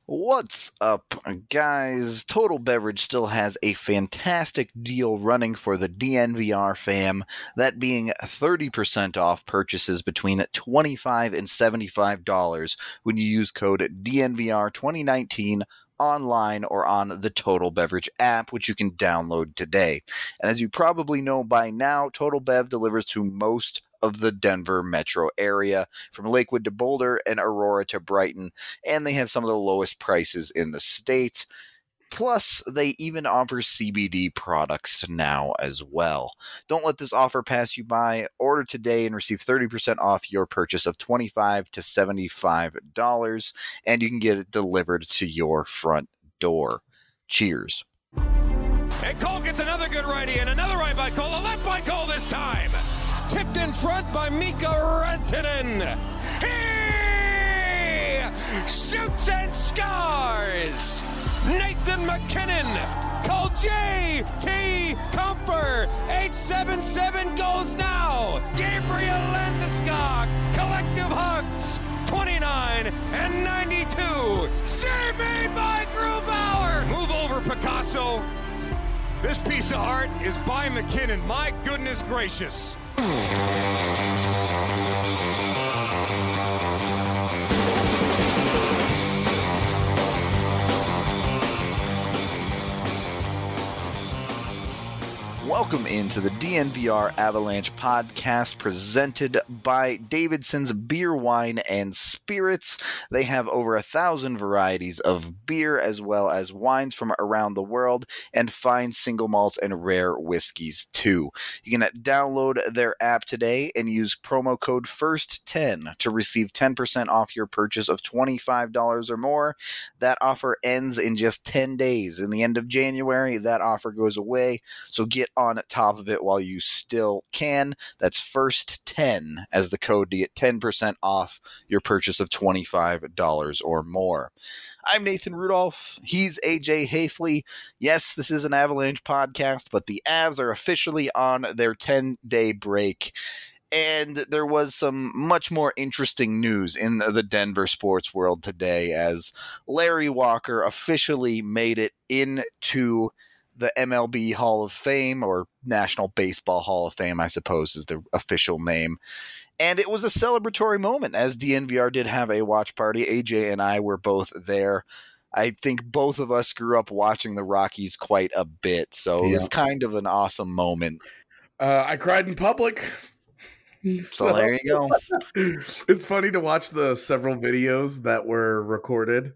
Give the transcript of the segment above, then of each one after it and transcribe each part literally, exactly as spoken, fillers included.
What's up, guys? Total Beverage still has a fantastic deal running for the D N V R fam, that being thirty percent off purchases between twenty-five dollars and seventy-five dollars when you use code D N V R twenty nineteen online or on the Total Beverage app, which you can download today. And as you probably know by now, Total Bev delivers to most of the Denver metro area, from Lakewood to Boulder and Aurora to Brighton, and they have some of the lowest prices in the state. Plus, they even offer C B D products now as well. Don't let this offer pass you by. Order today and receive thirty percent off your purchase of twenty-five dollars to seventy-five dollars, and you can get it delivered to your front door. Cheers. And Cole gets another good righty, and another right by Cole, a left by Cole this time. Tipped in front by Mika Rantanen. He shoots and scores. Nathan MacKinnon. Cole J T Comfer. eight seven seven goes now. Gabriel Landeskog. Collective hugs. twenty-nine and ninety-two. Save made by Grubauer. Move over, Picasso. This piece of art is by McKinnon. My goodness gracious. Welcome into the D N V R Avalanche podcast presented by Davidson's Beer, Wine, and Spirits. They have over a thousand varieties of beer as well as wines from around the world and fine single malts and rare whiskeys too. You can download their app today and use promo code first ten to receive ten percent off your purchase of twenty-five dollars or more. That offer ends in just ten days. In the end of January, that offer goes away, so get on top of it while you still can. That's first ten as the code to get ten percent off your purchase of twenty-five dollars or more. I'm Nathan Rudolph. He's A J Hafley. Yes, this is an Avalanche podcast, but the Avs are officially on their ten-day break. And there was some much more interesting news in the Denver sports world today, as Larry Walker officially made it into the M L B Hall of Fame, or National Baseball Hall of Fame, I suppose is the official name. And it was a celebratory moment, as D N V R did have a watch party. A J and I were both there. I think both of us grew up watching the Rockies quite a bit, so yeah. It was kind of an awesome moment. Uh, I cried in public. So, so there you go. It's funny to watch the several videos that were recorded.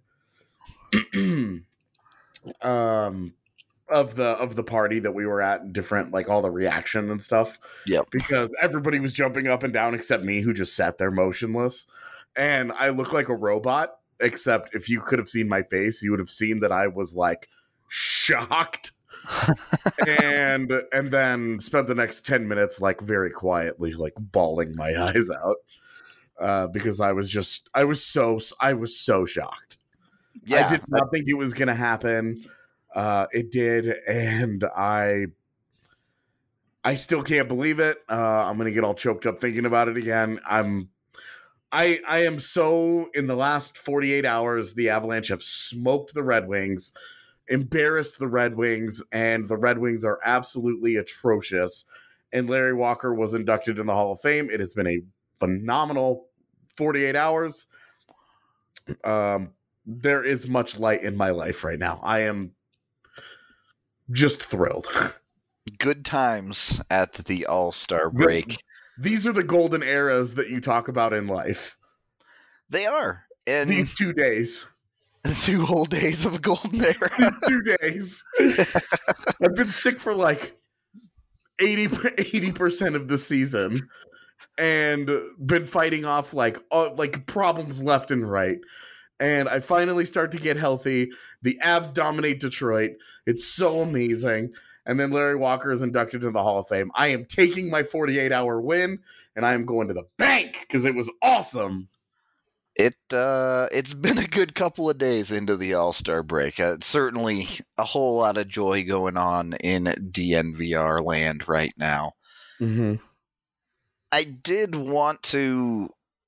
um... of the of the party that we were at, different, like, all the reaction and stuff. Yep. Because everybody was jumping up and down except me, who just sat there motionless. And I look like a robot, except if you could have seen my face, you would have seen that I was, like, shocked. and and then spent the next ten minutes, like, very quietly, like, bawling my eyes out. Uh, because I was just I was so I was so shocked. Yeah. I did not think it was gonna happen. Uh, it did, and I I still can't believe it. Uh, I'm gonna get all choked up thinking about it again. I'm I I am so in the last forty-eight hours, the Avalanche have smoked the Red Wings, embarrassed the Red Wings, and the Red Wings are absolutely atrocious. And Larry Walker was inducted in the Hall of Fame. It has been a phenomenal forty-eight hours. Um, there is much light in my life right now. I am just thrilled. Good times at the All-Star break. This, these are the golden arrows that you talk about in life. They are. And these two days. Two whole days of a golden era. Two days. I've been sick for like eighty percent of the season and been fighting off like uh, like problems left and right. And I finally start to get healthy. The Avs dominate Detroit. It's so amazing. And then Larry Walker is inducted into the Hall of Fame. I am taking my forty-eight hour win, and I am going to the bank because it was awesome. It, uh, it's been a good couple of days into the All-Star break. Uh, certainly a whole lot of joy going on in D N V R land right now. Mm-hmm. I did want to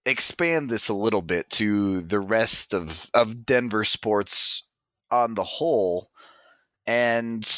expand this a little bit to the rest of, of Denver sports on the whole, and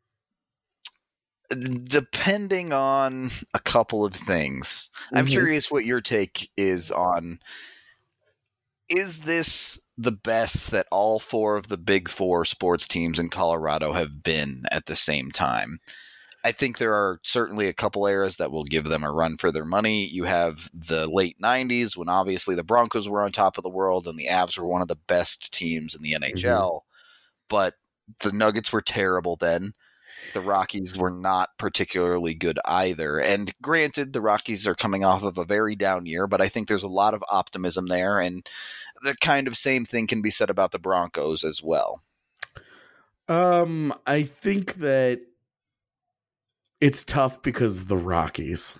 depending on a couple of things, mm-hmm. I'm curious what your take is on, is this the best that all four of the big four sports teams in Colorado have been at the same time? I think there are certainly a couple eras that will give them a run for their money. You have the late nineties when obviously the Broncos were on top of the world and the Avs were one of the best teams in the N H L, mm-hmm. but the Nuggets were terrible then. The Rockies were not particularly good either. And granted, the Rockies are coming off of a very down year, but I think there's a lot of optimism there. And the kind of same thing can be said about the Broncos as well. Um, I think that it's tough because the Rockies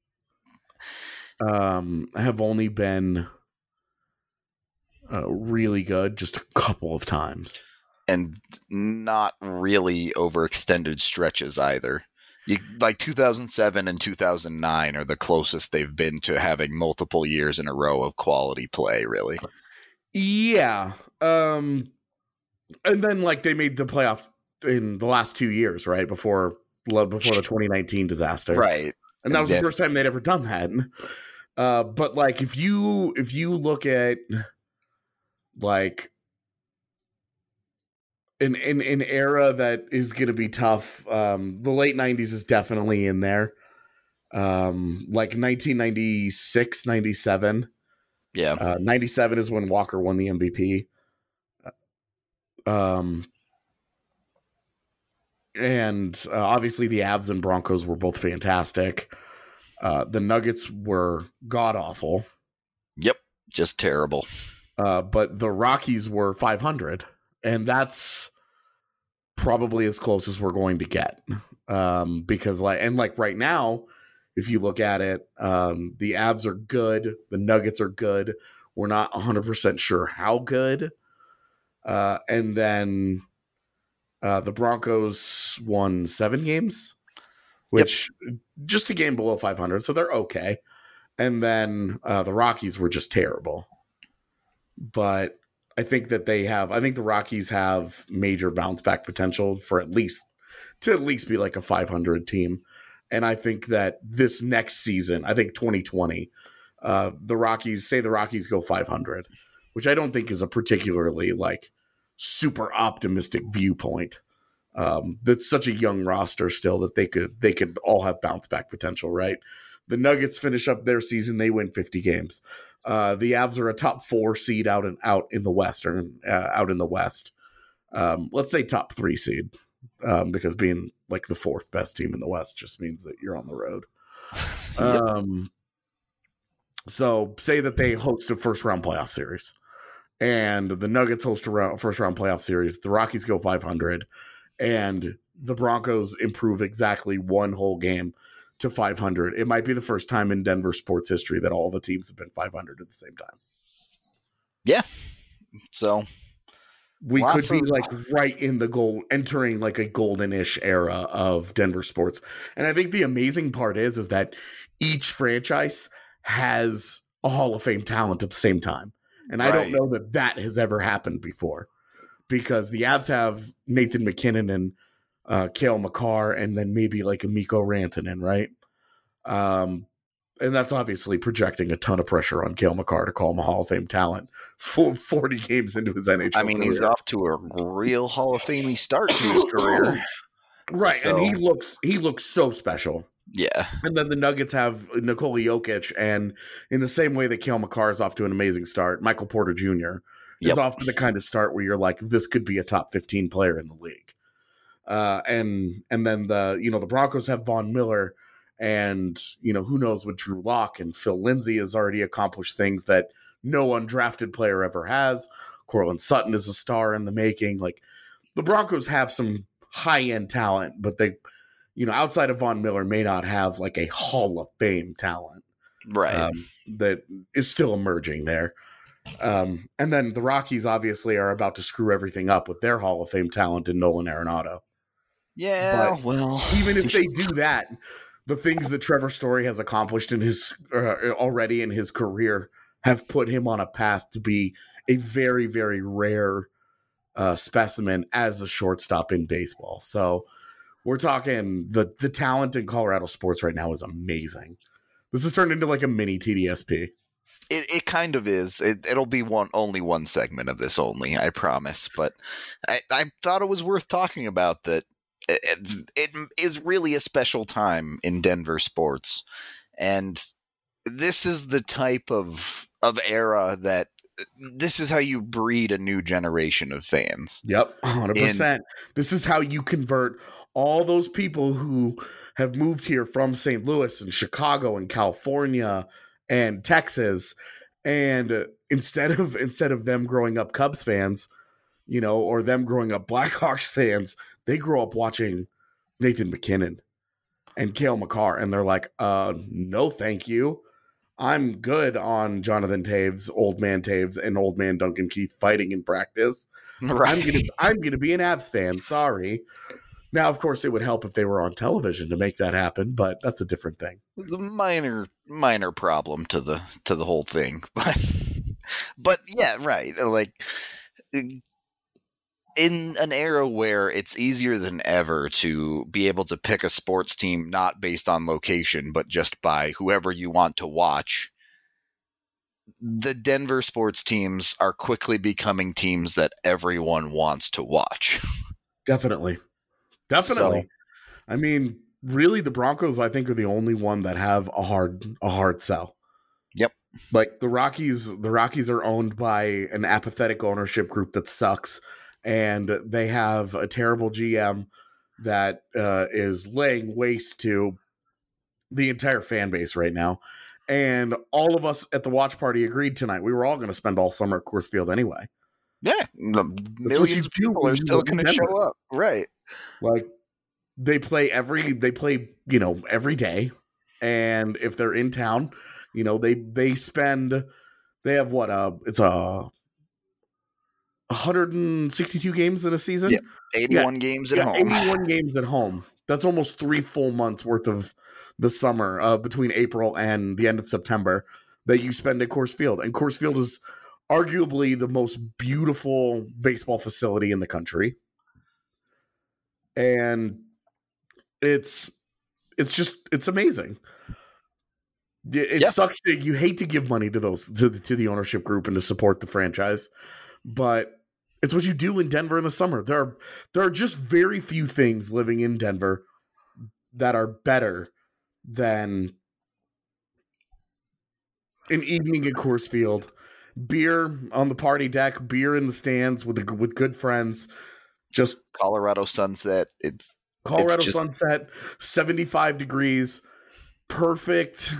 um, have only been uh, really good just a couple of times. And not really overextended stretches either. You, like two thousand seven and two thousand nine are the closest they've been to having multiple years in a row of quality play, really. Yeah. Um, and then, like, they made the playoffs in the last two years, right? Before before the twenty nineteen disaster. Right. And that was and then, the first time they'd ever done that. Uh, but, like, if you if you look at, like, An, an an era that is going to be tough. Um, the late nineties is definitely in there. Um, like nineteen ninety-six, ninety-seven. Yeah. Uh, ninety-seven is when Walker won the M V P. Um, and uh, obviously the Avs and Broncos were both fantastic. Uh, the Nuggets were god-awful. Yep, just terrible. Uh, but the Rockies were five hundred. And that's probably as close as we're going to get. Um, because like, and like right now, if you look at it, um, the Avs are good. The Nuggets are good. We're not one hundred percent sure how good. Uh, and then uh, the Broncos won seven games, which yep. just a game below five hundred. So they're okay. And then uh, the Rockies were just terrible. But I think that they have, I think the Rockies have major bounce back potential for at least, to at least be like a five hundred team. And I think that this next season, I think twenty twenty, uh, the Rockies, say the Rockies go five hundred, which I don't think is a particularly like super optimistic viewpoint. Um, that's such a young roster still that they could, they could all have bounce back potential, right? The Nuggets finish up their season, they win fifty games. Uh, the Avs are a top four seed out and out in the Western, uh, out in the West. Um, let's say top three seed, um, because being like the fourth best team in the West just means that you're on the road. Yep. Um, so say that they host a first round playoff series, and the Nuggets host a round, first round playoff series. The Rockies go five hundred, and the Broncos improve exactly one whole game to five hundred. It might be the first time in Denver sports history that all the teams have been five hundred at the same time. Yeah. So we could be of- like right in the goal, entering like a golden-ish era of Denver sports. And I think the amazing part is, is that each franchise has a Hall of Fame talent at the same time. And right. I don't know that that has ever happened before, because the Avs have Nathan McKinnon and Uh, Cale Makar, and then maybe like a Mikko Rantanen, right? Um, and that's obviously projecting a ton of pressure on Cale Makar to call him a Hall of Fame talent for forty games into his N H L I mean, career. He's off to a real Hall of Fame start to his career. Right, so. and he looks he looks so special. Yeah. And then the Nuggets have Nikola Jokic, and in the same way that Cale Makar is off to an amazing start, Michael Porter Junior is yep. off to the kind of start where you're like, this could be a top fifteen player in the league. Uh, and and then the you know the Broncos have Von Miller, and you know who knows with Drew Lock, and Phil Lindsay has already accomplished things that no undrafted player ever has. Courtland Sutton is a star in the making. Like, the Broncos have some high end talent, but they, you know, outside of Von Miller, may not have like a Hall of Fame talent, right? Um, that is still emerging there. Um, and then the Rockies obviously are about to screw everything up with their Hall of Fame talent in Nolan Arenado. Yeah, but well, even if they do that, the things that Trevor Story has accomplished in his uh, already in his career have put him on a path to be a very, very rare uh, specimen as a shortstop in baseball. So we're talking the the talent in Colorado sports right now is amazing. This has turned into like a mini T D S P. It, it kind of is. It, it'll be one only one segment of this only, I promise. But I, I thought it was worth talking about that. It, it is really a special time in Denver sports, and this is the type of of era that this is how you breed a new generation of fans. Yep, one hundred percent. In, this is how you convert all those people who have moved here from Saint Louis and Chicago and California and Texas, and instead of instead of them growing up Cubs fans, you know, or them growing up Blackhawks fans, they grow up watching Nathan MacKinnon and Cale Makar, and they're like, uh, no, thank you. I'm good on Jonathan Taves, Old Man Taves, and Old Man Duncan Keith fighting in practice. Right. I'm gonna I'm gonna be an Avs fan. Sorry. Now, of course, it would help if they were on television to make that happen, but that's a different thing. The minor minor problem to the to the whole thing, but but yeah, right. Like in an era where it's easier than ever to be able to pick a sports team not based on location, but just by whoever you want to watch, the Denver sports teams are quickly becoming teams that everyone wants to watch. Definitely. Definitely. So, I mean, really, the Broncos, I think, are the only one that have a hard a hard sell. Yep. Like the Rockies, the Rockies are owned by an apathetic ownership group that sucks. And they have a terrible G M that uh, is laying waste to the entire fan base right now. And all of us at the watch party agreed tonight. We were all going to spend all summer at Coors Field anyway. Yeah. Millions of people are still going to show up. Right. Like they play every, they play, you know, every day. And if they're in town, you know, they, they spend, they have what, uh, it's a, one hundred sixty-two games in a season. Yeah, eighty-one yeah. games at yeah, home. eighty-one games at home. That's almost three full months worth of the summer uh, between April and the end of September that you spend at Coors Field. And Coors Field is arguably the most beautiful baseball facility in the country. And it's it's just it's amazing. It yeah. sucks that you hate to give money to those to the, to the ownership group and to support the franchise. But it's what you do in Denver in the summer. There are there are just very few things living in Denver that are better than an evening at Coors Field, beer on the party deck, beer in the stands with the, with good friends. Just Colorado sunset. It's Colorado it's just, sunset, seventy-five degrees, perfect,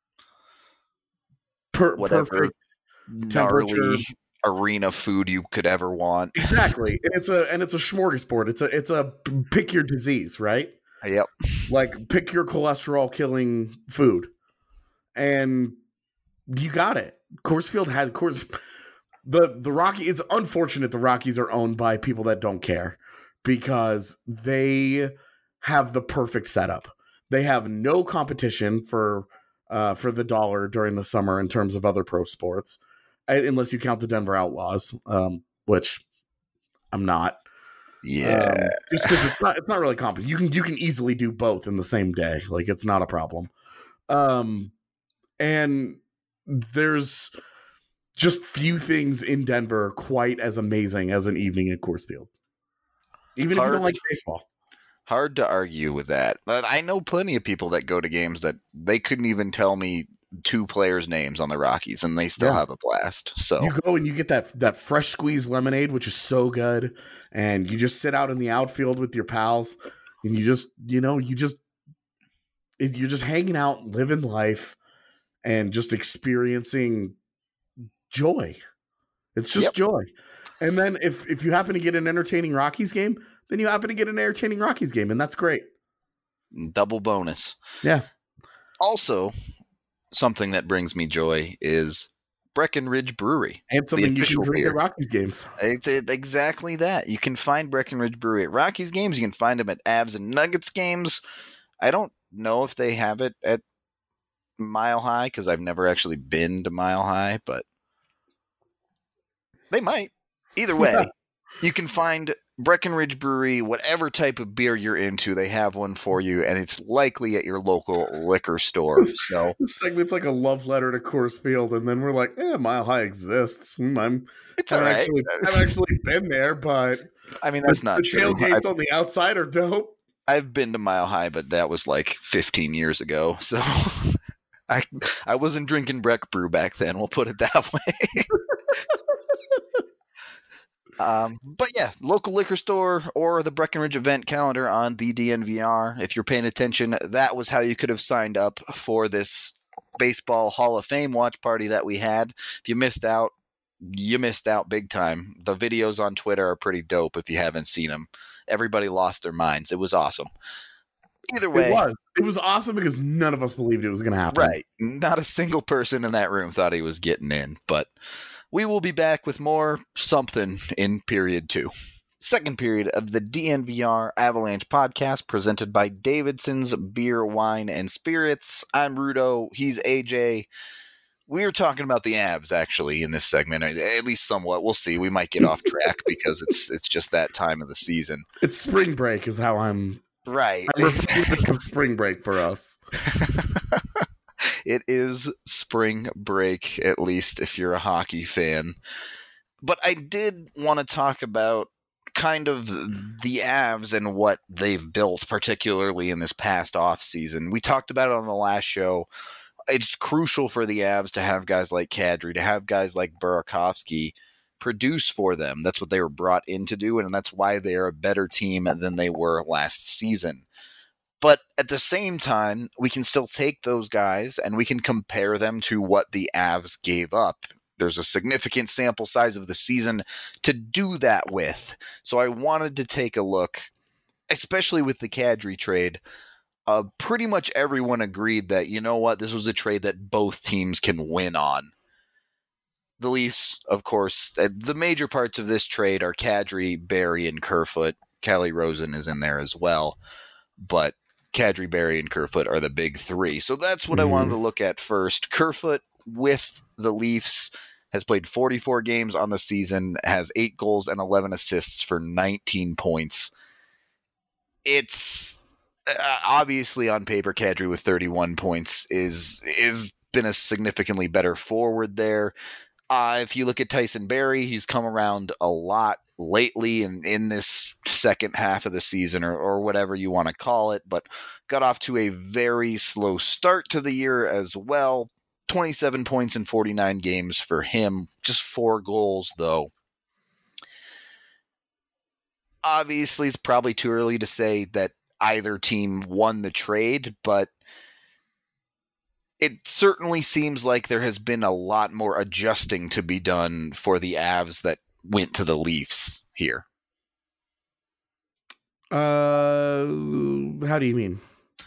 per, whatever perfect gnarly temperature. Arena food you could ever want. Exactly. And it's a and it's a smorgasbord. It's a it's a pick your disease, right? Yep. Like pick your cholesterol killing food. And you got it. Coors Field had Coors the the Rocky it's unfortunate the Rockies are owned by people that don't care because they have the perfect setup. They have no competition for uh for the dollar during the summer in terms of other pro sports. Unless you count the Denver Outlaws, um, which I'm not. Yeah, um, just because it's not, it's not really complicated. You can you can easily do both in the same day. Like it's not a problem. Um, and there's just few things in Denver quite as amazing as an evening at Coors Field. Even hard, if you don't like baseball. Hard to argue with that. But I know plenty of people that go to games that they couldn't even tell me two players' names on the Rockies, and they still yeah. have a blast. So you go and you get that that fresh squeezed lemonade, which is so good, and you just sit out in the outfield with your pals, and you just you know you just you're just hanging out, living life, and just experiencing joy. It's just yep. joy. And then if if you happen to get an entertaining Rockies game, then you happen to get an entertaining Rockies game, and that's great. Double bonus. Yeah. Also, something that brings me joy is Breckenridge Brewery. And something you can drink at Rockies games. It's exactly that. You can find Breckenridge Brewery at Rockies games. You can find them at Avs and Nuggets games. I don't know if they have it at Mile High because I've never actually been to Mile High, but they might. Either way, you can find Breckenridge Brewery, whatever type of beer you're into, they have one for you, and it's likely at your local liquor store. So this segment's like a love letter to Coors Field, and then we're like, "Yeah, Mile High exists." Mm, I'm, it's I've all right. actually, I've actually been there, but I mean that's the, not the true. tailgates I've, on the outside are dope. I've been to Mile High, but that was like fifteen years ago, so I I wasn't drinking Breck Brew back then. We'll put it that way. Um, but yeah, local liquor store or the Breckenridge event calendar on the D N V R. If you're paying attention, that was how you could have signed up for this baseball Hall of Fame watch party that we had. If you missed out, you missed out big time. The videos on Twitter are pretty dope if you haven't seen them. Everybody lost their minds. It was awesome. Either way. It was. It was awesome because none of us believed it was going to happen. Right. Not a single person in that room thought he was getting in, but we will be back with more something in period two. Second period of the D N V R Avalanche podcast presented by Davidson's Beer, Wine, and Spirits. I'm Rudo. He's A J. We were talking about the Avs, actually, in this segment, at least somewhat. We'll see. We might get off track because it's it's just that time of the season. It's spring break is how I'm... Right. I'm it's spring break for us. It is spring break, at least if you're a hockey fan. But I did want to talk about kind of the Avs and what they've built, particularly in this past offseason. We talked about it on the last show. It's crucial for the Avs to have guys like Kadri, to have guys like Burakovsky produce for them. That's what they were brought in to do, and that's why they're a better team than they were last season. But at the same time, we can still take those guys and we can compare them to what the Avs gave up. There's a significant sample size of the season to do that with. So I wanted to take a look, especially with the Kadri trade. Uh, pretty much everyone agreed that, you know what, this was a trade that both teams can win on. The Leafs, of course, the major parts of this trade are Kadri, Barrie, and Kerfoot. Calle Rosen is in there as well. But Kadri, Barrie, and Kerfoot are the big three. So that's what mm-hmm. I wanted to look at first. Kerfoot with the Leafs has played forty-four games on the season, has eight goals and eleven assists for nineteen points. It's uh, obviously on paper, Kadri with thirty-one points is is been a significantly better forward there. Uh, if you look at Tyson Barrie, he's come around a lot lately in, in this second half of the season or, or whatever you want to call it, but got off to a very slow start to the year as well. twenty-seven points in forty-nine games for him, just four goals though. Obviously, it's probably too early to say that either team won the trade, but it certainly seems like there has been a lot more adjusting to be done for the Avs that went to the Leafs here. Uh, how do you mean?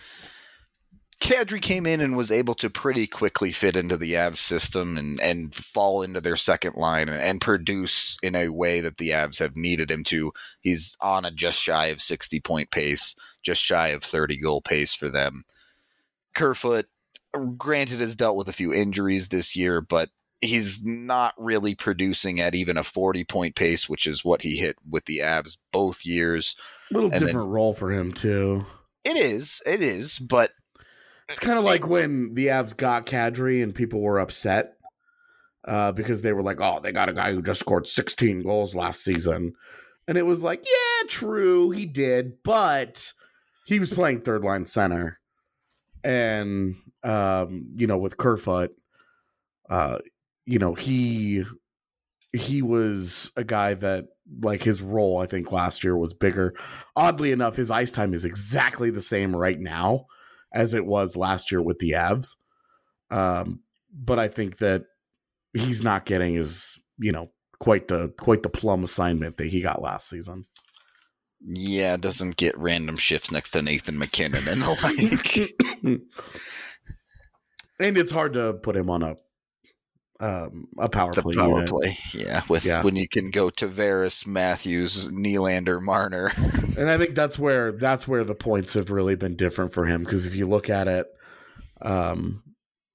Kadri came in and was able to pretty quickly fit into the Avs system and, and fall into their second line and, and produce in a way that the Avs have needed him to. He's on a just shy of sixty-point pace, just shy of thirty-goal pace for them. Kerfoot, granted, has dealt with a few injuries this year, but he's not really producing at even a forty-point pace, which is what he hit with the Avs both years. A little and different then, role for him, too. It is. It is, but it's kind of like when the Avs got Kadri and people were upset uh, because they were like, oh, they got a guy who just scored sixteen goals last season. And it was like, yeah, true, he did, but he was playing third line center. And, um, you know, with Kerfoot, uh, you know, he he was a guy that, like, his role, I think, last year was bigger. Oddly enough, his ice time is exactly the same right now as it was last year with the Avs. Um, but I think that he's not getting his, you know, quite the quite the plum assignment that he got last season. Yeah, doesn't get random shifts next to Nathan McKinnon and the like. And it's hard to put him on a um, a power the play. power unit. play, yeah. With yeah. when you can go Tavares, Matthews, Nylander, Marner, and I think that's where that's where the points have really been different for him. Because if you look at it, um,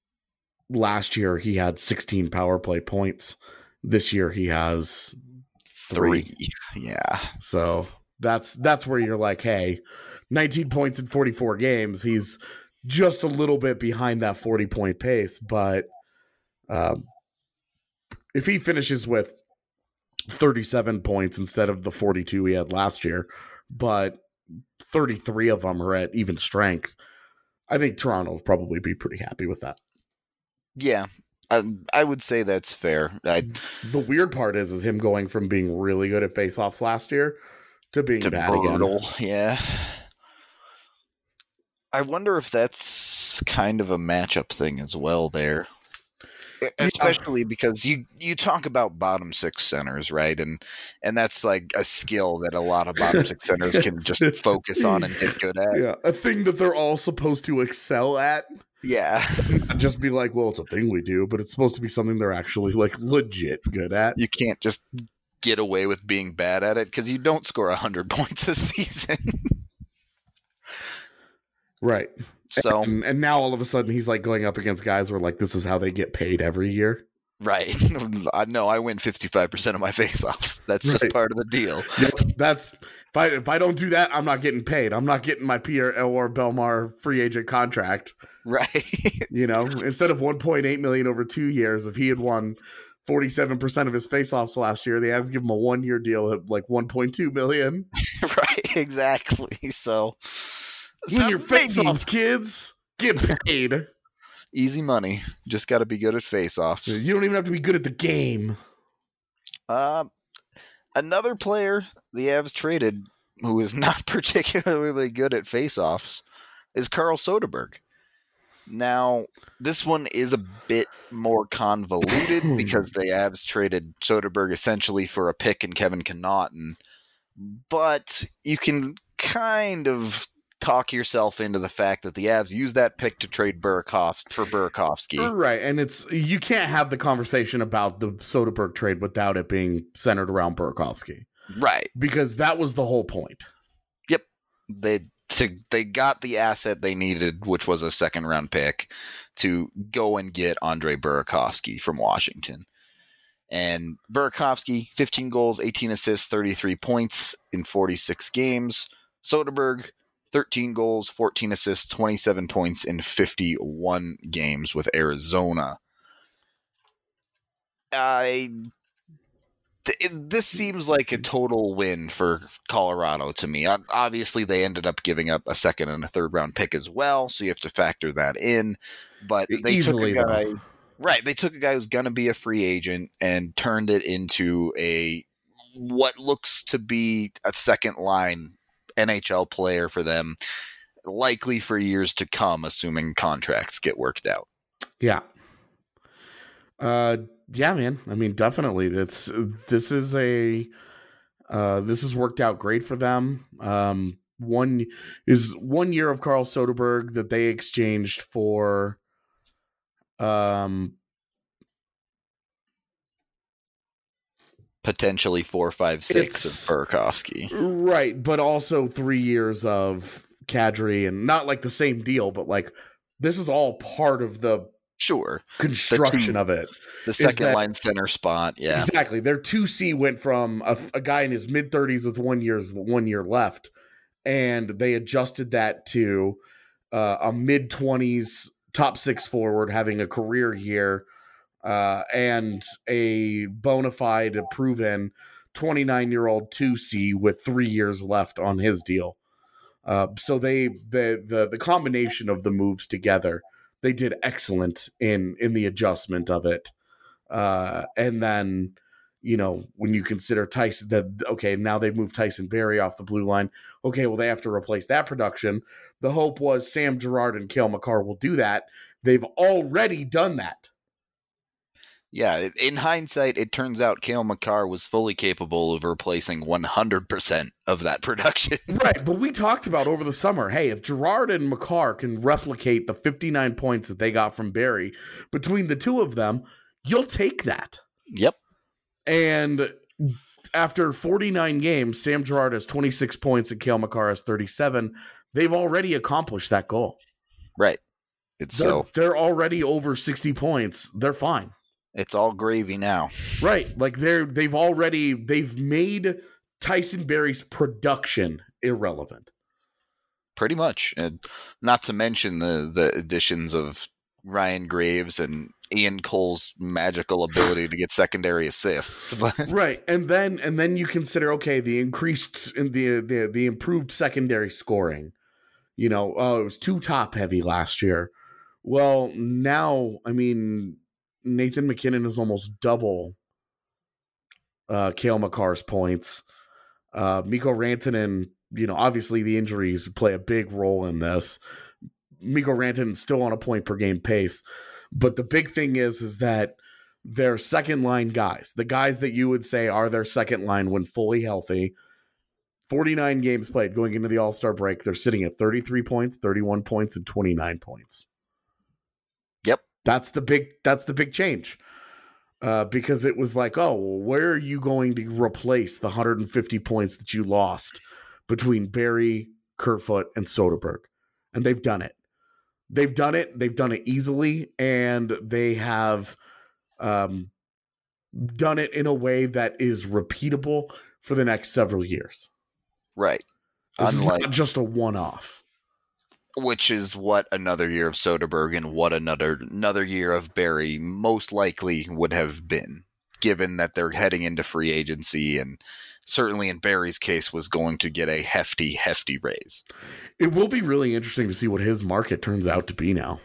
last year he had sixteen power play points. This year he has three. Three. Yeah. So that's that's where you're like, hey, nineteen points in forty-four games. He's just a little bit behind that forty-point pace. But um, if he finishes with thirty-seven points instead of the forty-two he had last year, but thirty-three of them are at even strength, I think Toronto will probably be pretty happy with that. Yeah. I, I would say that's fair. I, the weird part is, is him going from being really good at faceoffs last year to being to bad brutal. again. Yeah. I wonder if that's kind of a matchup thing as well there. Especially yeah. because you, you talk about bottom six centers, right? And and that's like a skill that a lot of bottom six centers can just focus on and get good at. Yeah, a thing that they're all supposed to excel at. Yeah. Just be like, well, it's a thing we do, but it's supposed to be something they're actually like legit good at. You can't just get away with being bad at it because you don't score one hundred points a season. Right. So and, and now all of a sudden he's like going up against guys where like this is how they get paid every year. Right. I know I win fifty-five percent of my faceoffs. That's right. just part of the deal. Yep, that's if I if I don't do that, I'm not getting paid. I'm not getting my Pierre Elwar Belmar free agent contract. Right. You know, instead of one point eight million over two years, if he had won forty-seven percent of his faceoffs last year, they had to give him a one year deal at like one point two million. Right, exactly. So win your faceoffs, kids. Get paid. Easy money. Just got to be good at face-offs. You don't even have to be good at the game. Uh, another player the Avs traded who is not particularly good at face-offs is Carl Soderberg. Now, this one is a bit more convoluted because the Avs traded Soderberg essentially for a pick and Kevin Connaughton, but you can kind of talk yourself into the fact that the Avs used that pick to trade Burakovsky for Burakovsky. Right, and it's you can't have the conversation about the Soderberg trade without it being centered around Burakovsky. Right. Because that was the whole point. Yep. They to, they got the asset they needed, which was a second round pick, to go and get Andre Burakovsky from Washington. And Burakovsky, fifteen goals, eighteen assists, thirty-three points in forty-six games. Soderberg, thirteen goals, fourteen assists, twenty-seven points in fifty-one games with Arizona. I th- this seems like a total win for Colorado to me. Obviously, they ended up giving up a second and a third round pick as well, so you have to factor that in. But they Easily, took a guy, though. right? They took a guy who's going to be a free agent and turned it into a what looks to be a second line N H L player for them, likely for years to come, assuming contracts get worked out. Yeah. Uh, yeah, man. I mean, definitely. That's this is a uh, this has worked out great for them. Um, one is one year of Carl Soderberg that they exchanged for um potentially four, five, six of Burakovsky. Right, but also three years of Kadri, and not like the same deal, but like this is all part of the sure construction the two, of it. The second that, line center spot, yeah. Exactly. Their two C went from a, a guy in his mid thirties with one year's one year left, and they adjusted that to uh, a mid twenties top six forward having a career year. Uh, and a bona fide, proven twenty-nine-year-old two C with three years left on his deal. Uh, so they the, the the combination of the moves together, they did excellent in in the adjustment of it. Uh, and then, you know, when you consider Tyson, that okay, now they've moved Tyson Barrie off the blue line. Okay, well they have to replace that production. The hope was Sam Girard and Cale Makar will do that. They've already done that. Yeah, in hindsight, it turns out Cale Makar was fully capable of replacing one hundred percent of that production. Right, but we talked about over the summer, hey, if Girard and Makar can replicate the fifty-nine points that they got from Barrie, between the two of them, you'll take that. Yep. And after forty-nine games, Sam Girard has twenty-six points and Cale Makar has thirty-seven. They've already accomplished that goal. Right. It's they're, so they're already over sixty points. They're fine. it's all gravy now. Right. Like they're they've already they've made Tyson Berry's production irrelevant. Pretty much. And not to mention the the additions of Ryan Graves and Ian Cole's magical ability to get secondary assists. Right. And then and then you consider, okay, the increased in the, the the improved secondary scoring. You know, oh, it was too top heavy last year. Well, now, I mean, Nathan McKinnon is almost double uh Cale Makar's points. Uh Mikko Rantanen, you know, obviously the injuries play a big role in this. Mikko Rantanen's still on a point per game pace. But the big thing is, is that their second line guys, the guys that you would say are their second line when fully healthy, forty-nine games played going into the All-Star break, they're sitting at thirty-three points, thirty-one points, and twenty-nine points. Yep. That's the big, that's the big change. Uh, because it was like, oh, well, where are you going to replace the one hundred fifty points that you lost between Barrie, Kerfoot, and Soderberg? And they've done it. They've done it. They've done it easily, and they have um, done it in a way that is repeatable for the next several years. Right. This Unlike, is not just a one-off. Which is what another year of Soderberg and what another another year of Barrie most likely would have been, given that they're heading into free agency and certainly in Barry's case was going to get a hefty, hefty raise. It will be really interesting to see what his market turns out to be now.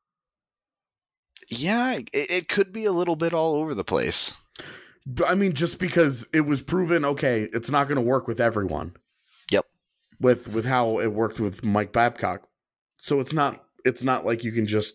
Yeah, it, it could be a little bit all over the place. I mean, just because it was proven, okay, it's not going to work with everyone. Yep. With with how it worked with Mike Babcock. So it's not it's not like you can just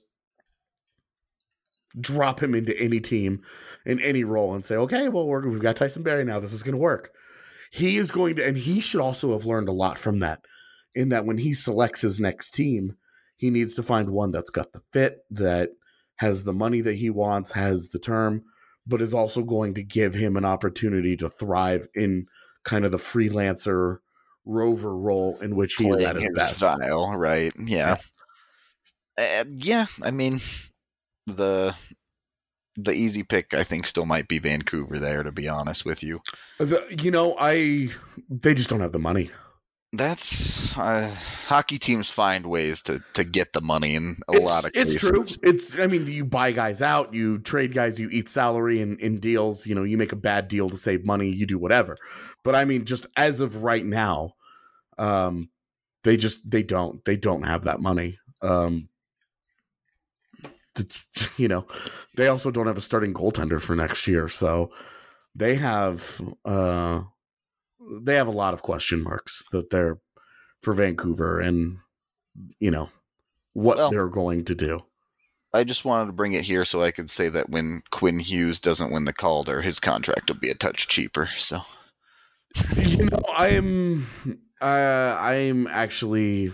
drop him into any team in any role and say, okay, well, we're, we've got Tyson Barrie now. This is going to work. He is going to, and he should also have learned a lot from that, in that when he selects his next team, he needs to find one that's got the fit, that has the money that he wants, has the term, but is also going to give him an opportunity to thrive in kind of the freelancer rover role in which he's at his, his best. Style, right? Yeah. Yeah. Uh, yeah. I mean, the the easy pick, I think, still might be Vancouver there, to be honest with you. The, you know, I they just don't have the money. That's uh, hockey teams find ways to to get the money in a it's, lot of it's cases. It's true. It's I mean, you buy guys out, you trade guys, you eat salary in, in deals. You know, you make a bad deal to save money, you do whatever. But I mean, just as of right now, um, they just they don't they don't have that money. Um, it's, you know, they also don't have a starting goaltender for next year, so they have uh, they have a lot of question marks that they're for Vancouver, and you know what well, they're going to do. I just wanted to bring it here so I could say that when Quinn Hughes doesn't win the Calder, his contract will be a touch cheaper. So, you know, I am uh, I am actually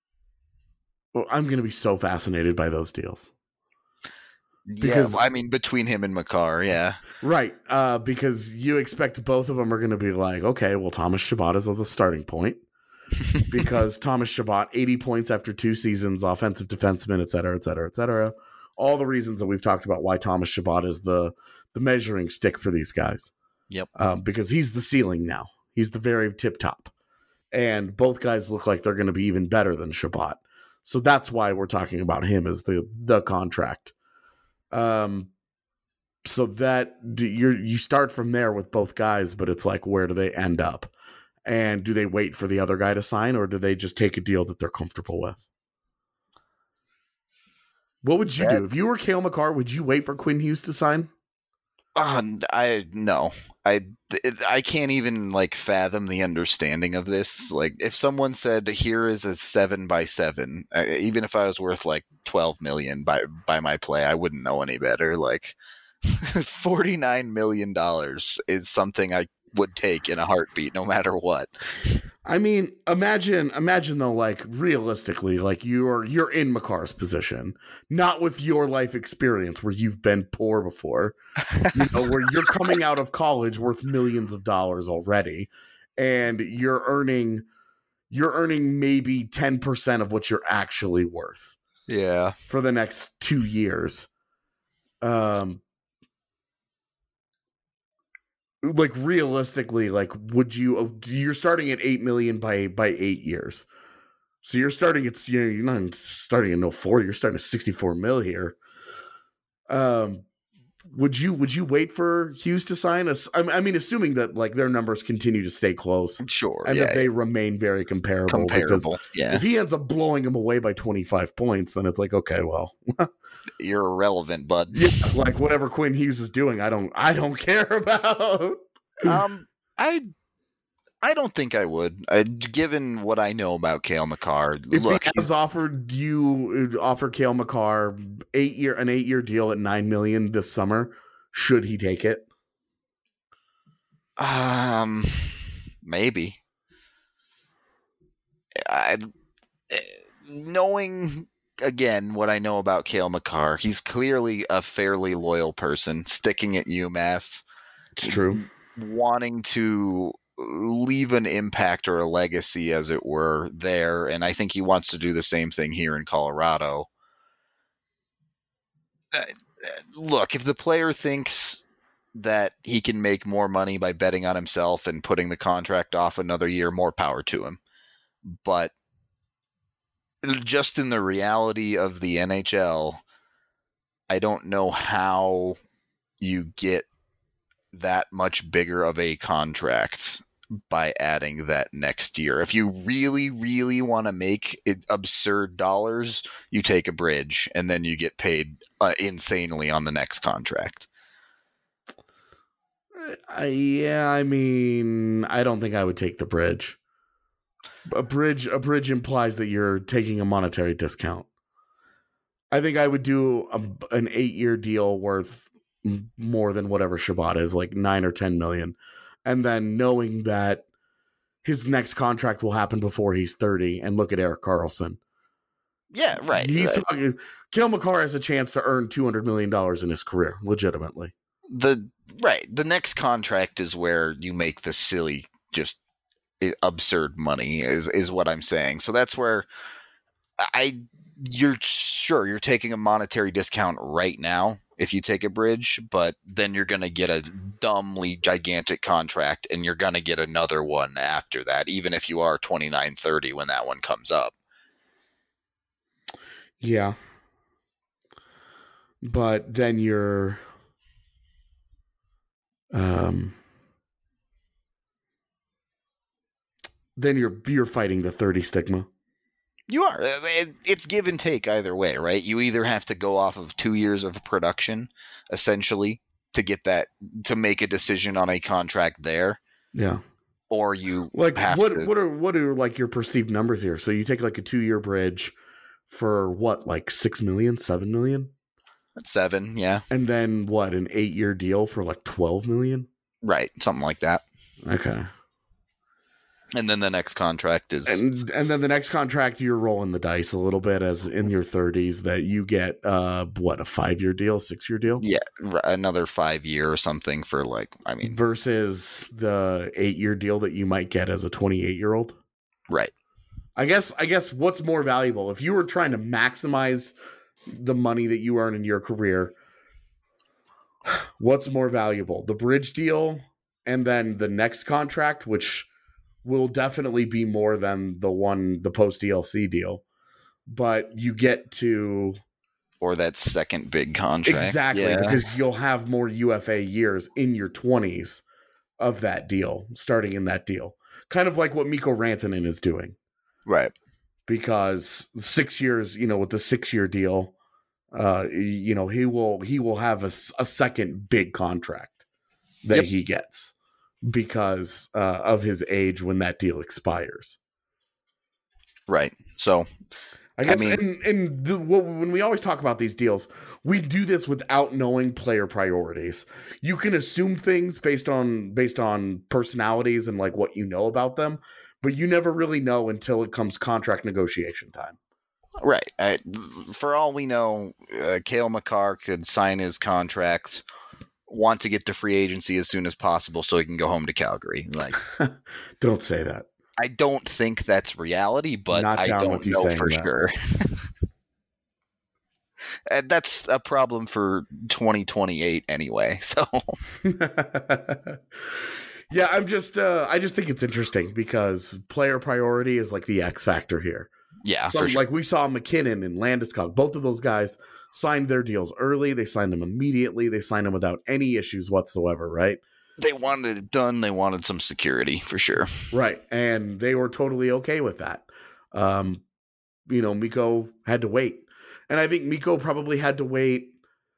well, I'm going to be so fascinated by those deals. Because, yeah, I mean, between him and Makar, yeah. Right, uh, because you expect both of them are going to be like, okay, well, Thomas Chabot is at the starting point. Because Thomas Chabot, eighty points after two seasons, offensive defenseman, et cetera, et cetera, et cetera. All the reasons that we've talked about why Thomas Chabot is the, the measuring stick for these guys. Yep. Um, because he's the ceiling now. He's the very tip top. And both guys look like they're going to be even better than Chabot. So that's why we're talking about him as the the contract. Um, so that you you start from there with both guys, but it's like, where do they end up? And do they wait for the other guy to sign, or do they just take a deal that they're comfortable with? What would you that, do if you were Cale Makar? Would you wait for Quinn Hughes to sign? Uh, I no, I I can't even like fathom the understanding of this. Like, if someone said, "Here is a seven by seven," uh, even if I was worth like twelve million by by my play, I wouldn't know any better. Like, forty nine million dollars is something I would take in a heartbeat, no matter what. I mean, imagine, imagine though, like realistically, like you're you're in Makar's position, not with your life experience where you've been poor before, you know, where you're coming out of college worth millions of dollars already, and you're earning, you're earning maybe ten percent of what you're actually worth. Yeah. For the next two years. Um, like realistically, like would you? You're starting at eight million by by eight years. So you're starting at you know you're not starting at no forty. You're starting at sixty-four mil here. Um, would you would you wait for Hughes to sign us? I mean, assuming that like their numbers continue to stay close, Sure, and yeah, that they remain very comparable. comparable. Yeah, if he ends up blowing him away by twenty-five points, then it's like okay, well, you're irrelevant, bud. Yeah, like whatever Quinn Hughes is doing, I don't I don't care about. um, I. I don't think I would. I, given what I know about Cale Makar, if look, he has offered you offer Cale Makar eight year an eight year deal at nine million this summer, should he take it? Um, maybe. I knowing again what I know about Cale Makar, he's clearly a fairly loyal person, sticking at UMass. It's true. Wanting to leave an impact or a legacy, as it were, there, and I think he wants to do the same thing here in Colorado. Uh, look, if the player thinks that he can make more money by betting on himself and putting the contract off another year, more power to him. But just in the reality of the N H L, I don't know how you get that much bigger of a contract by adding that next year. If you really, really want to make it absurd dollars, you take a bridge and then you get paid uh, insanely on the next contract. Uh, yeah, I mean, I don't think I would take the bridge. A bridge, a bridge implies that you're taking a monetary discount. I think I would do a, an eight-year deal worth more than whatever Shabbat is, like nine or ten million. And then knowing that his next contract will happen before he's thirty, and look at Erik Karlsson. Yeah, right. He's right. talking. Cale Makar has a chance to earn two hundred million dollars in his career, legitimately. The right. The next contract is where you make the silly, just absurd money. Is is what I'm saying. So that's where I. You're sure you're taking a monetary discount right now if you take a bridge, but then you're going to get a dumbly gigantic contract and you're going to get another one after that, even if you are twenty-nine, thirty when that one comes up. Yeah. But then you're, um, then you're, you're fighting the thirty stigma. You are. It's give and take either way, right? You either have to go off of two years of production, essentially, to get that, to make a decision on a contract there. Yeah. Or you like have what? to, What are what are like your perceived numbers here? So you take like a two year bridge for what, like six million, seven million? Seven, yeah. And then what? An eight year deal for like twelve million? Right, something like that. Okay. And then the next contract is, and and then the next contract you're rolling the dice a little bit as in your thirties that you get uh what, a five year deal, six year deal, yeah, another five year or something for like, I mean, versus the eight year deal that you might get as a twenty-eight year old. Right. I guess I guess what's more valuable if you were trying to maximize the money that you earn in your career? What's more valuable, the bridge deal and then the next contract, which will definitely be more than the one, the post D L C deal, but you get to, or that second big contract. Exactly. Yeah. Because you'll have more U F A years in your twenties of that deal, starting in that deal, kind of like what Mikko Rantanen is doing. Right. Because six years, you know, with the six year deal, uh, you know, he will, he will have a, a second big contract that yep. he gets. Because uh, of his age when that deal expires. Right. So, I guess I mean, and, and the, when we always talk about these deals, we do this without knowing player priorities. You can assume things based on based on personalities and like what you know about them, but you never really know until it comes contract negotiation time. Right. I, for all we know, uh, Cale Makar could sign his contract, want to get to free agency as soon as possible so he can go home to Calgary. Like, don't say that. I don't think that's reality, but Not I don't know for that. sure. And that's a problem for twenty twenty-eight anyway. So yeah, I'm just uh, I just think it's interesting because player priority is like the X factor here. Yeah, so, for sure. Like we saw McKinnon and Landeskog, both of those guys signed their deals early. They signed them immediately. They signed them without any issues whatsoever, right? They wanted it done. They wanted some security for sure. Right. And they were totally okay with that. Um, you know, Mikko had to wait. And I think Mikko probably had to wait.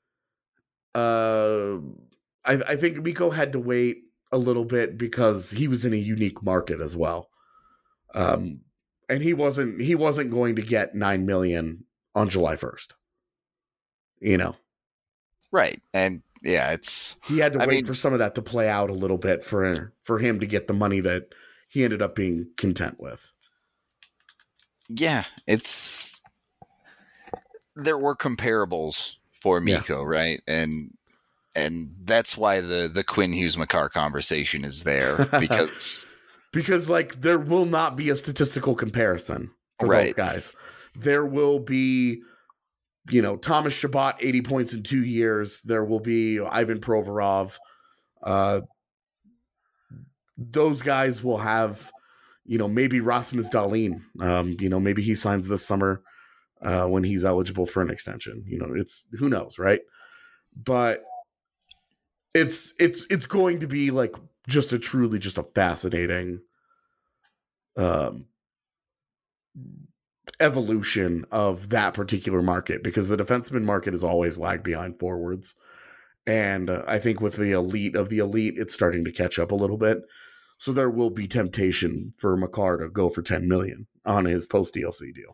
Uh, I, I think Mikko had to wait a little bit because he was in a unique market as well. Um, and he wasn't he wasn't going to get nine million on July first. You know. Right. And yeah, it's he had to I wait mean, for some of that to play out a little bit for for him to get the money that he ended up being content with. Yeah, it's there were comparables for Mikko, yeah. right? And and that's why the the Quinn Hughes Makar conversation is there because because like there will not be a statistical comparison for right. both guys. There will be, you know, Thomas Chabot, eighty points in two years. There will be Ivan Provorov. Uh, those guys will have, you know, maybe Rasmus Dahlin. Um, you know, maybe he signs this summer uh, when he's eligible for an extension. You know, it's who knows, right? But it's it's it's going to be like just a truly just a fascinating um, evolution of that particular market because the defenseman market has always lagged behind forwards. And uh, I think with the elite of the elite, it's starting to catch up a little bit. So there will be temptation for Makar to go for ten million on his post D L C deal.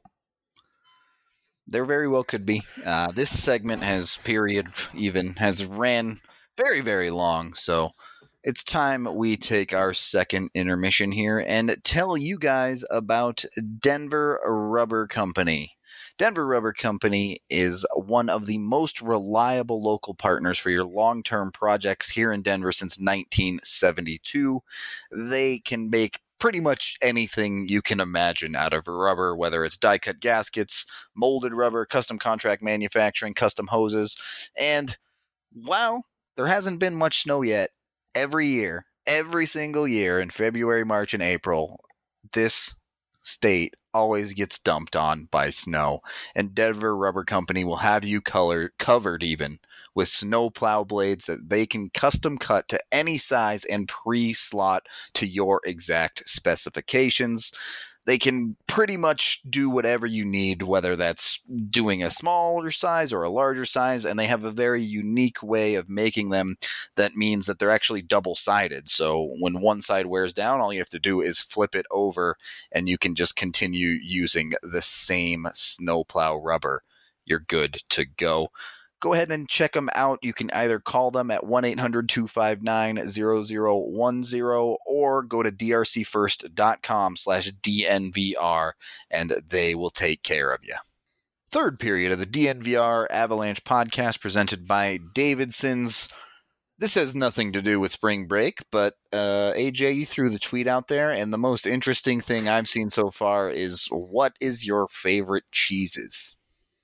There very well could be. Uh, this segment has period even has ran very, very long. So it's time we take our second intermission here and tell you guys about Denver Rubber Company. Denver Rubber Company is one of the most reliable local partners for your long-term projects here in Denver since nineteen seventy-two. They can make pretty much anything you can imagine out of rubber, whether it's die-cut gaskets, molded rubber, custom contract manufacturing, custom hoses. And while there hasn't been much snow yet, every year, every single year in February, March, and April, this state always gets dumped on by snow, and Denver Rubber Company will have you color, covered even with snow plow blades that they can custom cut to any size and pre-slot to your exact specifications. They can pretty much do whatever you need, whether that's doing a smaller size or a larger size, and they have a very unique way of making them that means that they're actually double-sided. So when one side wears down, all you have to do is flip it over, and you can just continue using the same snowplow rubber. You're good to go. Go ahead and check them out. You can either call them at one eight hundred two five nine zero zero one zero or go to drcfirst.com slash DNVR and they will take care of you. Third period of the D N V R Avalanche podcast presented by Davidson's. This has nothing to do with spring break, but uh, A J, you threw the tweet out there, and the most interesting thing I've seen so far is what is your favorite cheeses?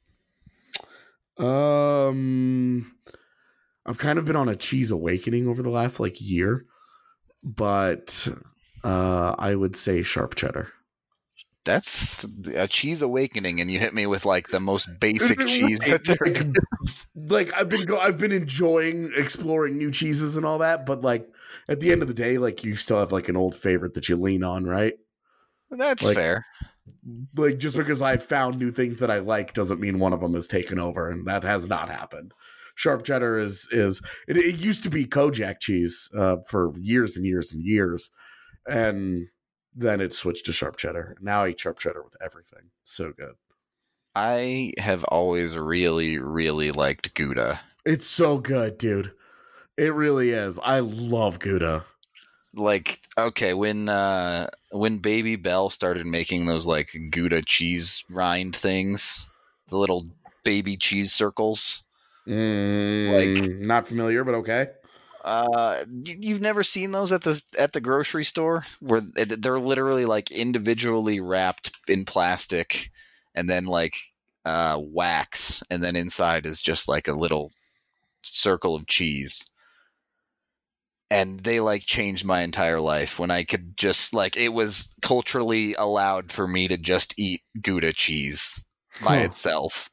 Um, I've kind of been on a cheese awakening over the last like year, but uh, I would say sharp cheddar. That's a cheese awakening, and you hit me with like the most basic cheese that there like, is. Like I've been, go- I've been enjoying exploring new cheeses and all that, but like at the end of the day, like you still have like an old favorite that you lean on, right? That's like, fair. Like just because I've found new things that I like doesn't mean one of them has taken over, and that has not happened. Sharp cheddar is is it, it used to be Kojak cheese uh, for years and years and years, and then it switched to sharp cheddar. Now I eat sharp cheddar with everything. So good. I have always really, really liked Gouda. It's so good, dude. It really is. I love Gouda. Like, okay, when uh, when Baby Bell started making those like Gouda cheese rind things, the little baby cheese circles. Mm, like, not familiar, but okay. Uh, you've never seen those at the at the grocery store where they're literally like individually wrapped in plastic, and then like uh, wax, and then inside is just like a little circle of cheese. And they like changed my entire life when I could just like, it was culturally allowed for me to just eat Gouda cheese by Huh. itself.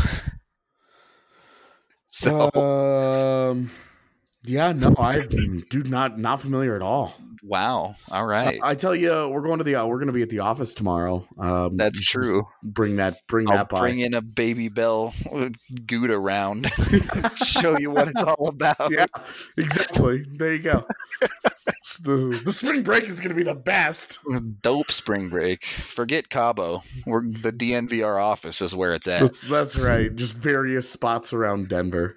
So, Um, yeah, no, I dude, not not familiar at all. wow. All right. I, I tell you, we're going to the uh, we're going to be at the office tomorrow. Um, That's just true. Bring that, bring I'll that by. bring in a Baby Bell Gouda round. Show you what it's all about. Yeah, exactly. There you go. the, the spring break is going to be the best. Dope spring break. Forget Cabo. We're, the D N V R office is where it's at. That's, that's right. Just various spots around Denver.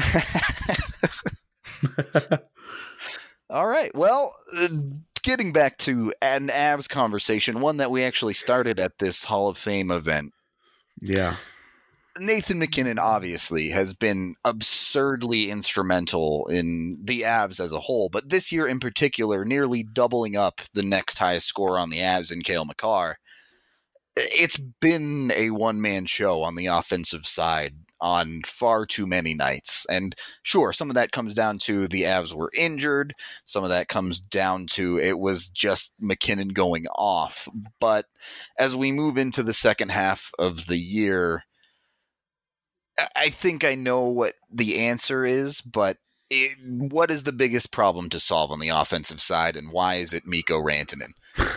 All right. Well, uh, getting back to an Avs conversation, one that we actually started at this Hall of Fame event. Yeah. Nathan MacKinnon obviously has been absurdly instrumental in the Avs as a whole, but this year in particular, nearly doubling up the next highest scorer on the Avs in Cale Makar. It's been a one-man show on the offensive side on far too many nights. And sure, some of that comes down to the Avs were injured. Some of that comes down to it was just MacKinnon going off. But as we move into the second half of the year, I think I know what the answer is, but it, what is the biggest problem to solve on the offensive side, and why is it Mikko Rantanen?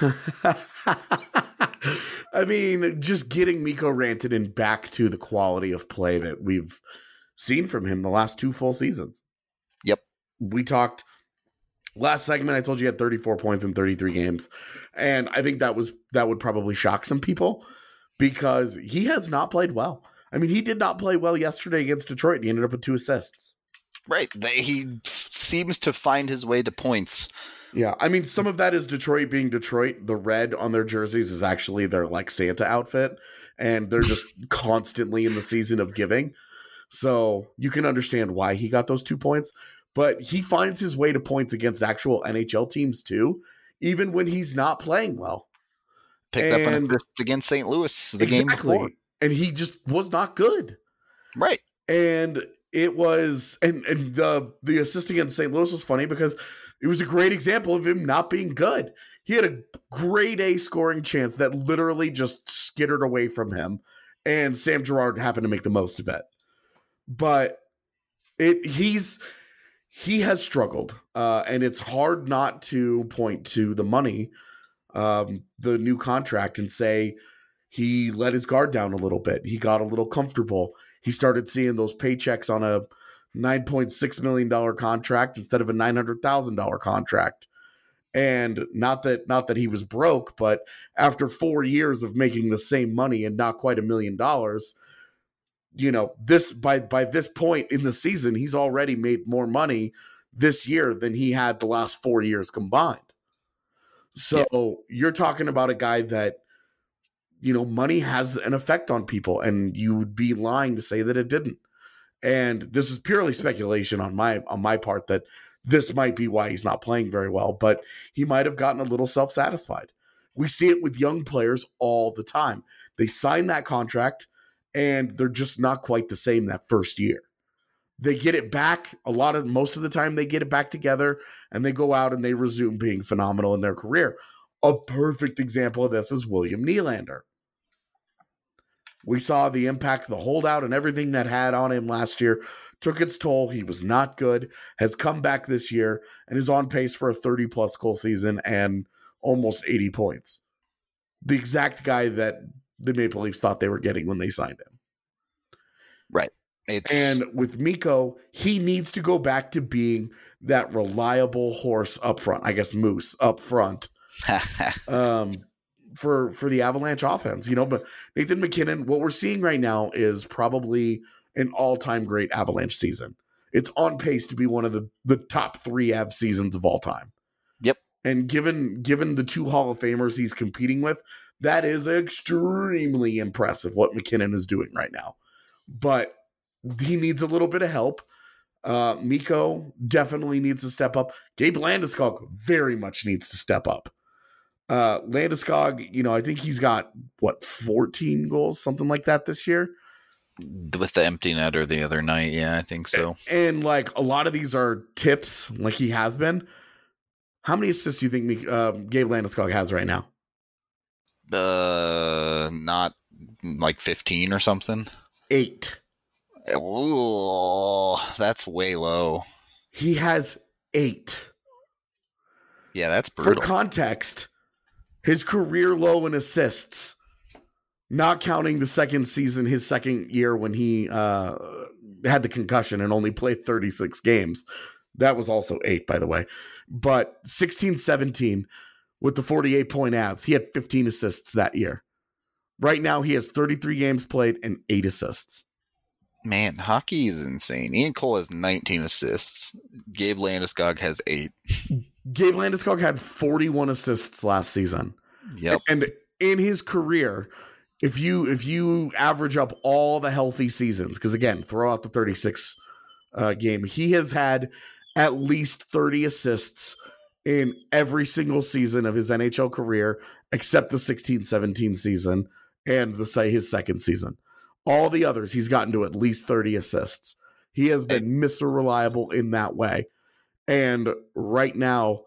I mean, just getting Mikko Rantanen back to the quality of play that we've seen from him the last two full seasons. Yep. We talked last segment. I told you he had thirty-four points in thirty-three games. And I think that was, that would probably shock some people because he has not played well. I mean, he did not play well yesterday against Detroit. He ended up with two assists. Right. He seems to find his way to points. Yeah. I mean, some of that is Detroit being Detroit. The red on their jerseys is actually their like Santa outfit. And they're just constantly in the season of giving. So you can understand why he got those two points. But he finds his way to points against actual N H L teams too, even when he's not playing well. Picked and, up an assist against Saint Louis the exactly. game before. And he just was not good. Right. And it was, and, and the, the assist against Saint Louis was funny because it was a great example of him not being good. He had a grade A scoring chance that literally just skittered away from him. And Sam Girard happened to make the most of it. But it he's he has struggled. Uh, and it's hard not to point to the money, um, the new contract, and say, he let his guard down a little bit. He got a little comfortable. He started seeing those paychecks on a nine point six million dollars contract instead of a nine hundred thousand dollars contract. And not that not that he was broke, but after four years of making the same money and not quite a million dollars, you know, this by by this point in the season, he's already made more money this year than he had the last four years combined. So yeah. You're talking about a guy that, you know, money has an effect on people, and you would be lying to say that it didn't. And this is purely speculation on my on my part that this might be why he's not playing very well, but he might have gotten a little self-satisfied. We see it with young players all the time. They sign that contract, and they're just not quite the same that first year. They get it back a lot of most of the time. They get it back together, and they go out and they resume being phenomenal in their career. A perfect example of this is William Nylander. We saw the impact, the holdout, and everything that had on him last year took its toll. He was not good, has come back this year, and is on pace for a thirty-plus goal season and almost eighty points. The exact guy that the Maple Leafs thought they were getting when they signed him. Right. It's... And with Mikko, he needs to go back to being that reliable horse up front. I guess moose up front. um, for for the Avalanche offense, you know, but Nathan MacKinnon, what we're seeing right now is probably an all-time great Avalanche season. It's on pace to be one of the, the top three Av seasons of all time. Yep. And given given the two Hall of Famers he's competing with, that is extremely impressive what MacKinnon is doing right now. But he needs a little bit of help. Uh, Mikko definitely needs to step up. Gabe Landeskog very much needs to step up. Uh, Landeskog, you know, I think he's got, what, fourteen goals, something like that this year? With the empty netter the other night, yeah, I think so. And, and like, a lot of these are tips, like he has been. How many assists do you think uh, Gabe Landeskog has right now? Uh, not like fifteen or something? Eight. Ooh, that's way low. He has eight. Yeah, that's brutal. For context, his career low in assists, not counting the second season, his second year when he uh, had the concussion and only played thirty-six games. That was also eight, by the way. But sixteen seventeen with the forty-eight point Avs, he had fifteen assists that year. Right now, he has thirty-three games played and eight assists. Man, hockey is insane. Ian Cole has nineteen assists. Gabe Landeskog has eight. Gabe Landeskog had forty-one assists last season. Yep. And in his career, if you if you average up all the healthy seasons, because again, throw out the thirty-six uh, game, he has had at least thirty assists in every single season of his N H L career, except the sixteen seventeen season and the say his second season. All the others, he's gotten to at least thirty assists. He has been Mister Reliable in that way. And right now,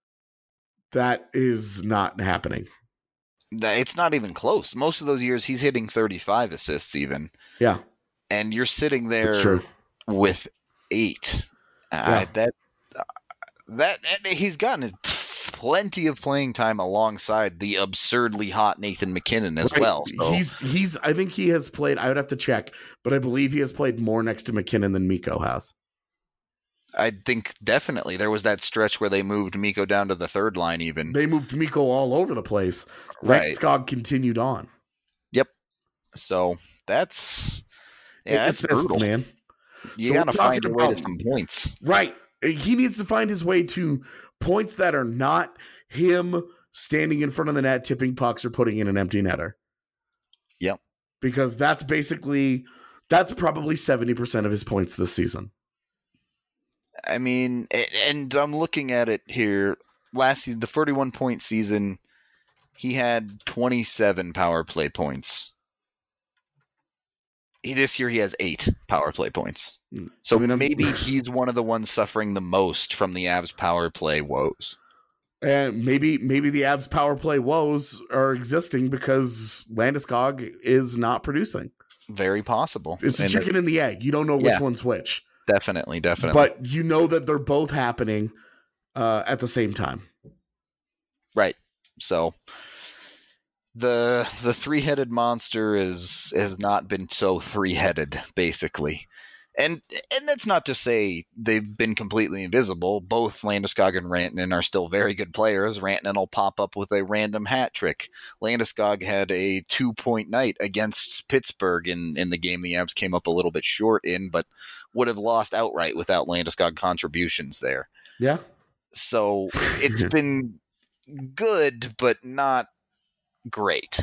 that is not happening. It's not even close. Most of those years, he's hitting thirty-five assists even. Yeah. And you're sitting there with eight. Uh, Yeah. that, that that he's gotten plenty of playing time alongside the absurdly hot Nathan MacKinnon as Right. well. So. He's he's. I think he has played. I would have to check, but I believe he has played more next to MacKinnon than Mikko has. I think definitely there was that stretch where they moved Mikko down to the third line. Even They moved Mikko all over the place. Right. Landeskog continued on. Yep. So that's yeah, that's Assists, brutal, man. You So got to we're find talking a way to about- some points. Right. He needs to find his way to points that are not him standing in front of the net, tipping pucks, or putting in an empty netter. Yep. Because that's basically, that's probably seventy percent of his points this season. I mean, a- and I'm looking at it here. Last season, the forty-one point season, he had twenty-seven power play points. He- This year, he has eight power play points. So I mean, I'm- maybe he's one of the ones suffering the most from the Avs power play woes. And maybe maybe the Avs power play woes are existing because Landeskog is not producing. Very possible. It's the And chicken and the egg. You don't know which Yeah. one's which. Definitely, definitely. But you know that they're both happening uh, at the same time. Right. So the the three-headed monster is has not been so three-headed, basically. And and that's not to say they've been completely invisible. Both Landeskog and Rantanen are still very good players. Rantanen will pop up with a random hat trick. Landeskog had a two-point night against Pittsburgh in, in the game the Avs came up a little bit short in, but would have lost outright without Landeskog contributions there. Yeah. So it's been good, but not great.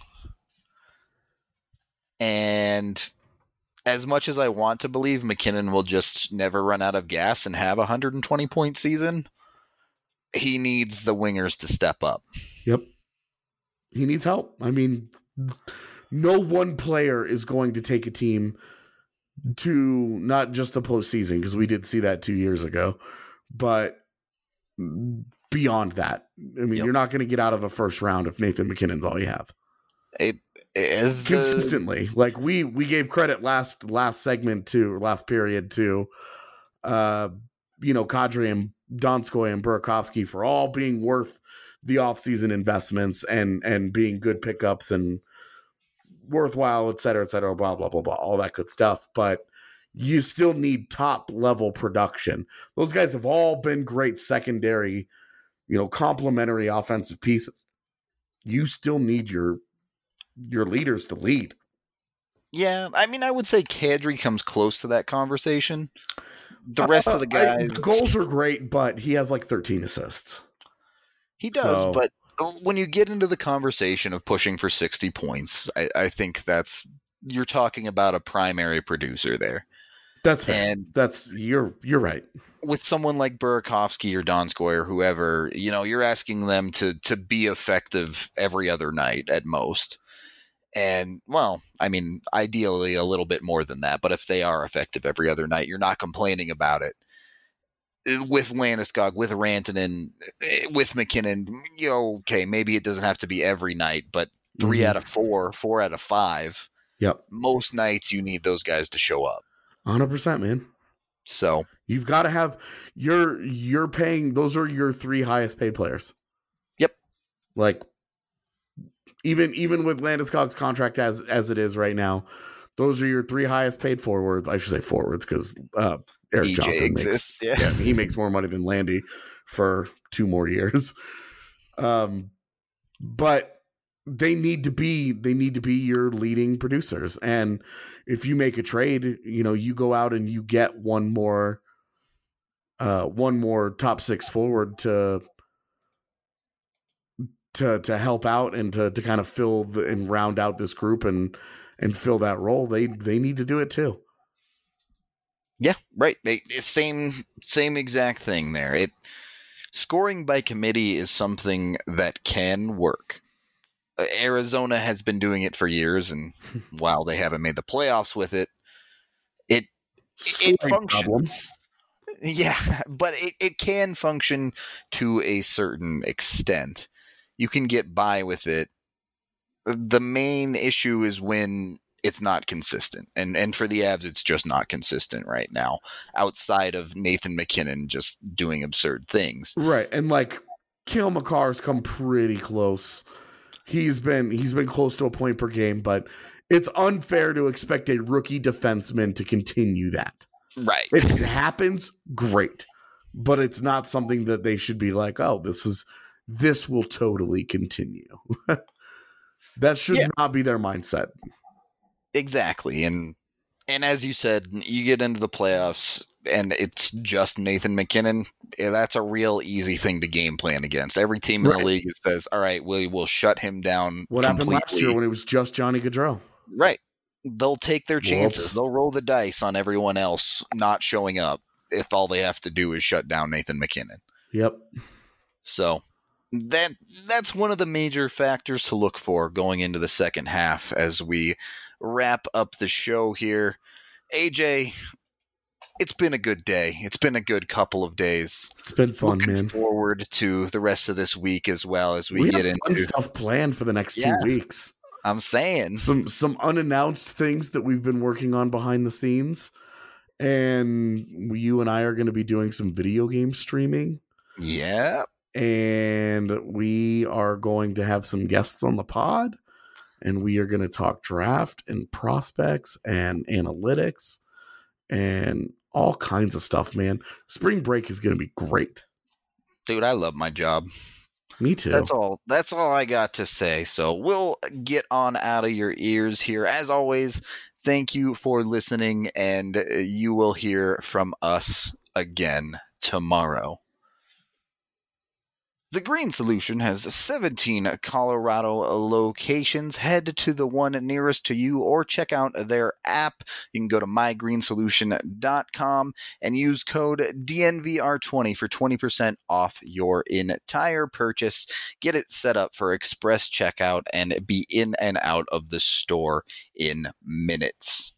And as much as I want to believe MacKinnon will just never run out of gas and have a one hundred twenty point season, he needs the wingers to step up. Yep. He needs help. I mean, no one player is going to take a team to not just the postseason, because we did see that two years ago, but beyond that. I mean, Yep. you're not going to get out of a first round if Nathan MacKinnon's all you have. It, it, the, Consistently. Like we we gave credit last last segment to, or last period to, uh, you know, Kadri and Donskoy and Burakovsky for all being worth the offseason investments and and being good pickups and worthwhile, et cetera, et cetera, blah, blah, blah, blah, all that good stuff. But you still need top level production. Those guys have all been great secondary, you know, complementary offensive pieces. You still need your your leaders to lead. yeah, I mean, I would say Kadri comes close to that conversation. The rest Uh, of the guys, I, the goals are great, but he has like thirteen assists. he does, so- but when you get into the conversation of pushing for sixty points, I, I think that's, you're talking about a primary producer there. That's fair. And that's you're you're right. With someone like Burakovsky or Donskoy or whoever, you know, you're asking them to to be effective every other night at most. And, well, I mean, ideally a little bit more than that. But if they are effective every other night, you're not complaining about it. With Landeskog, with Rantanen, with McKinnon, you know, okay, maybe it doesn't have to be every night, but three mm-hmm. out of four, four out of five. Yep. Most nights you need those guys to show up. one hundred percent, man. So you've got to have you're you're paying. Those are your three highest paid players. Yep. Like even even with Landeskog's contract as as it is right now, those are your three highest paid forwards. I should say forwards because uh, Eric E J Johnson exists. Makes, yeah. yeah, he makes more money than Landy for two more years. Um, but they need to be they need to be your leading producers, and if you make a trade, you know, you go out and you get one more, uh, one more top six forward to, to, to help out and to, to kind of fill the, and round out this group and, and fill that role. They, they need to do it too. Yeah, right. They, same, same exact thing there. It scoring by committee is something that can work. Arizona has been doing it for years, and while they haven't made the playoffs with it, it it, it functions. Problems. Yeah, but it, it can function to a certain extent. You can get by with it. The main issue is when it's not consistent, and and for the Avs, it's just not consistent right now. Outside of Nathan McKinnon just doing absurd things, right? And like Cale Makar's come pretty close. He's been he's been close to a point per game, but it's unfair to expect a rookie defenseman to continue that. Right. If it happens, great. But it's not something that they should be like, oh, this is this will totally continue. That should yeah. not be their mindset. Exactly. And and as you said, you get into the playoffs and it's just Nathan McKinnon. That's a real easy thing to game plan against. Every team in right. the league says, all right, we will shut him down. What completely. happened last year when it was just Johnny Gaudreau? Right. They'll take their chances. Whoops. They'll roll the dice on everyone else not showing up if all they have to do is shut down Nathan McKinnon. Yep. So that that's one of the major factors to look for going into the second half as we wrap up the show here. A J, it's been a good day. It's been a good couple of days. It's been fun, Looking man. Forward to the rest of this week as well as we, we get have into stuff planned for the next yeah, two weeks. I'm saying some some unannounced things that we've been working on behind the scenes, and you and I are going to be doing some video game streaming. Yeah, and we are going to have some guests on the pod, and we are going to talk draft and prospects and analytics and all kinds of stuff, man. Spring break is going to be great. Dude, I love my job. Me too. That's all. That's all I got to say. So we'll get on out of your ears here. As always, thank you for listening, and you will hear from us again tomorrow. The Green Solution has seventeen Colorado locations. Head to the one nearest to you or check out their app. You can go to my green solution dot com and use code D N V R twenty for twenty percent off your entire purchase. Get it set up for express checkout and be in and out of the store in minutes.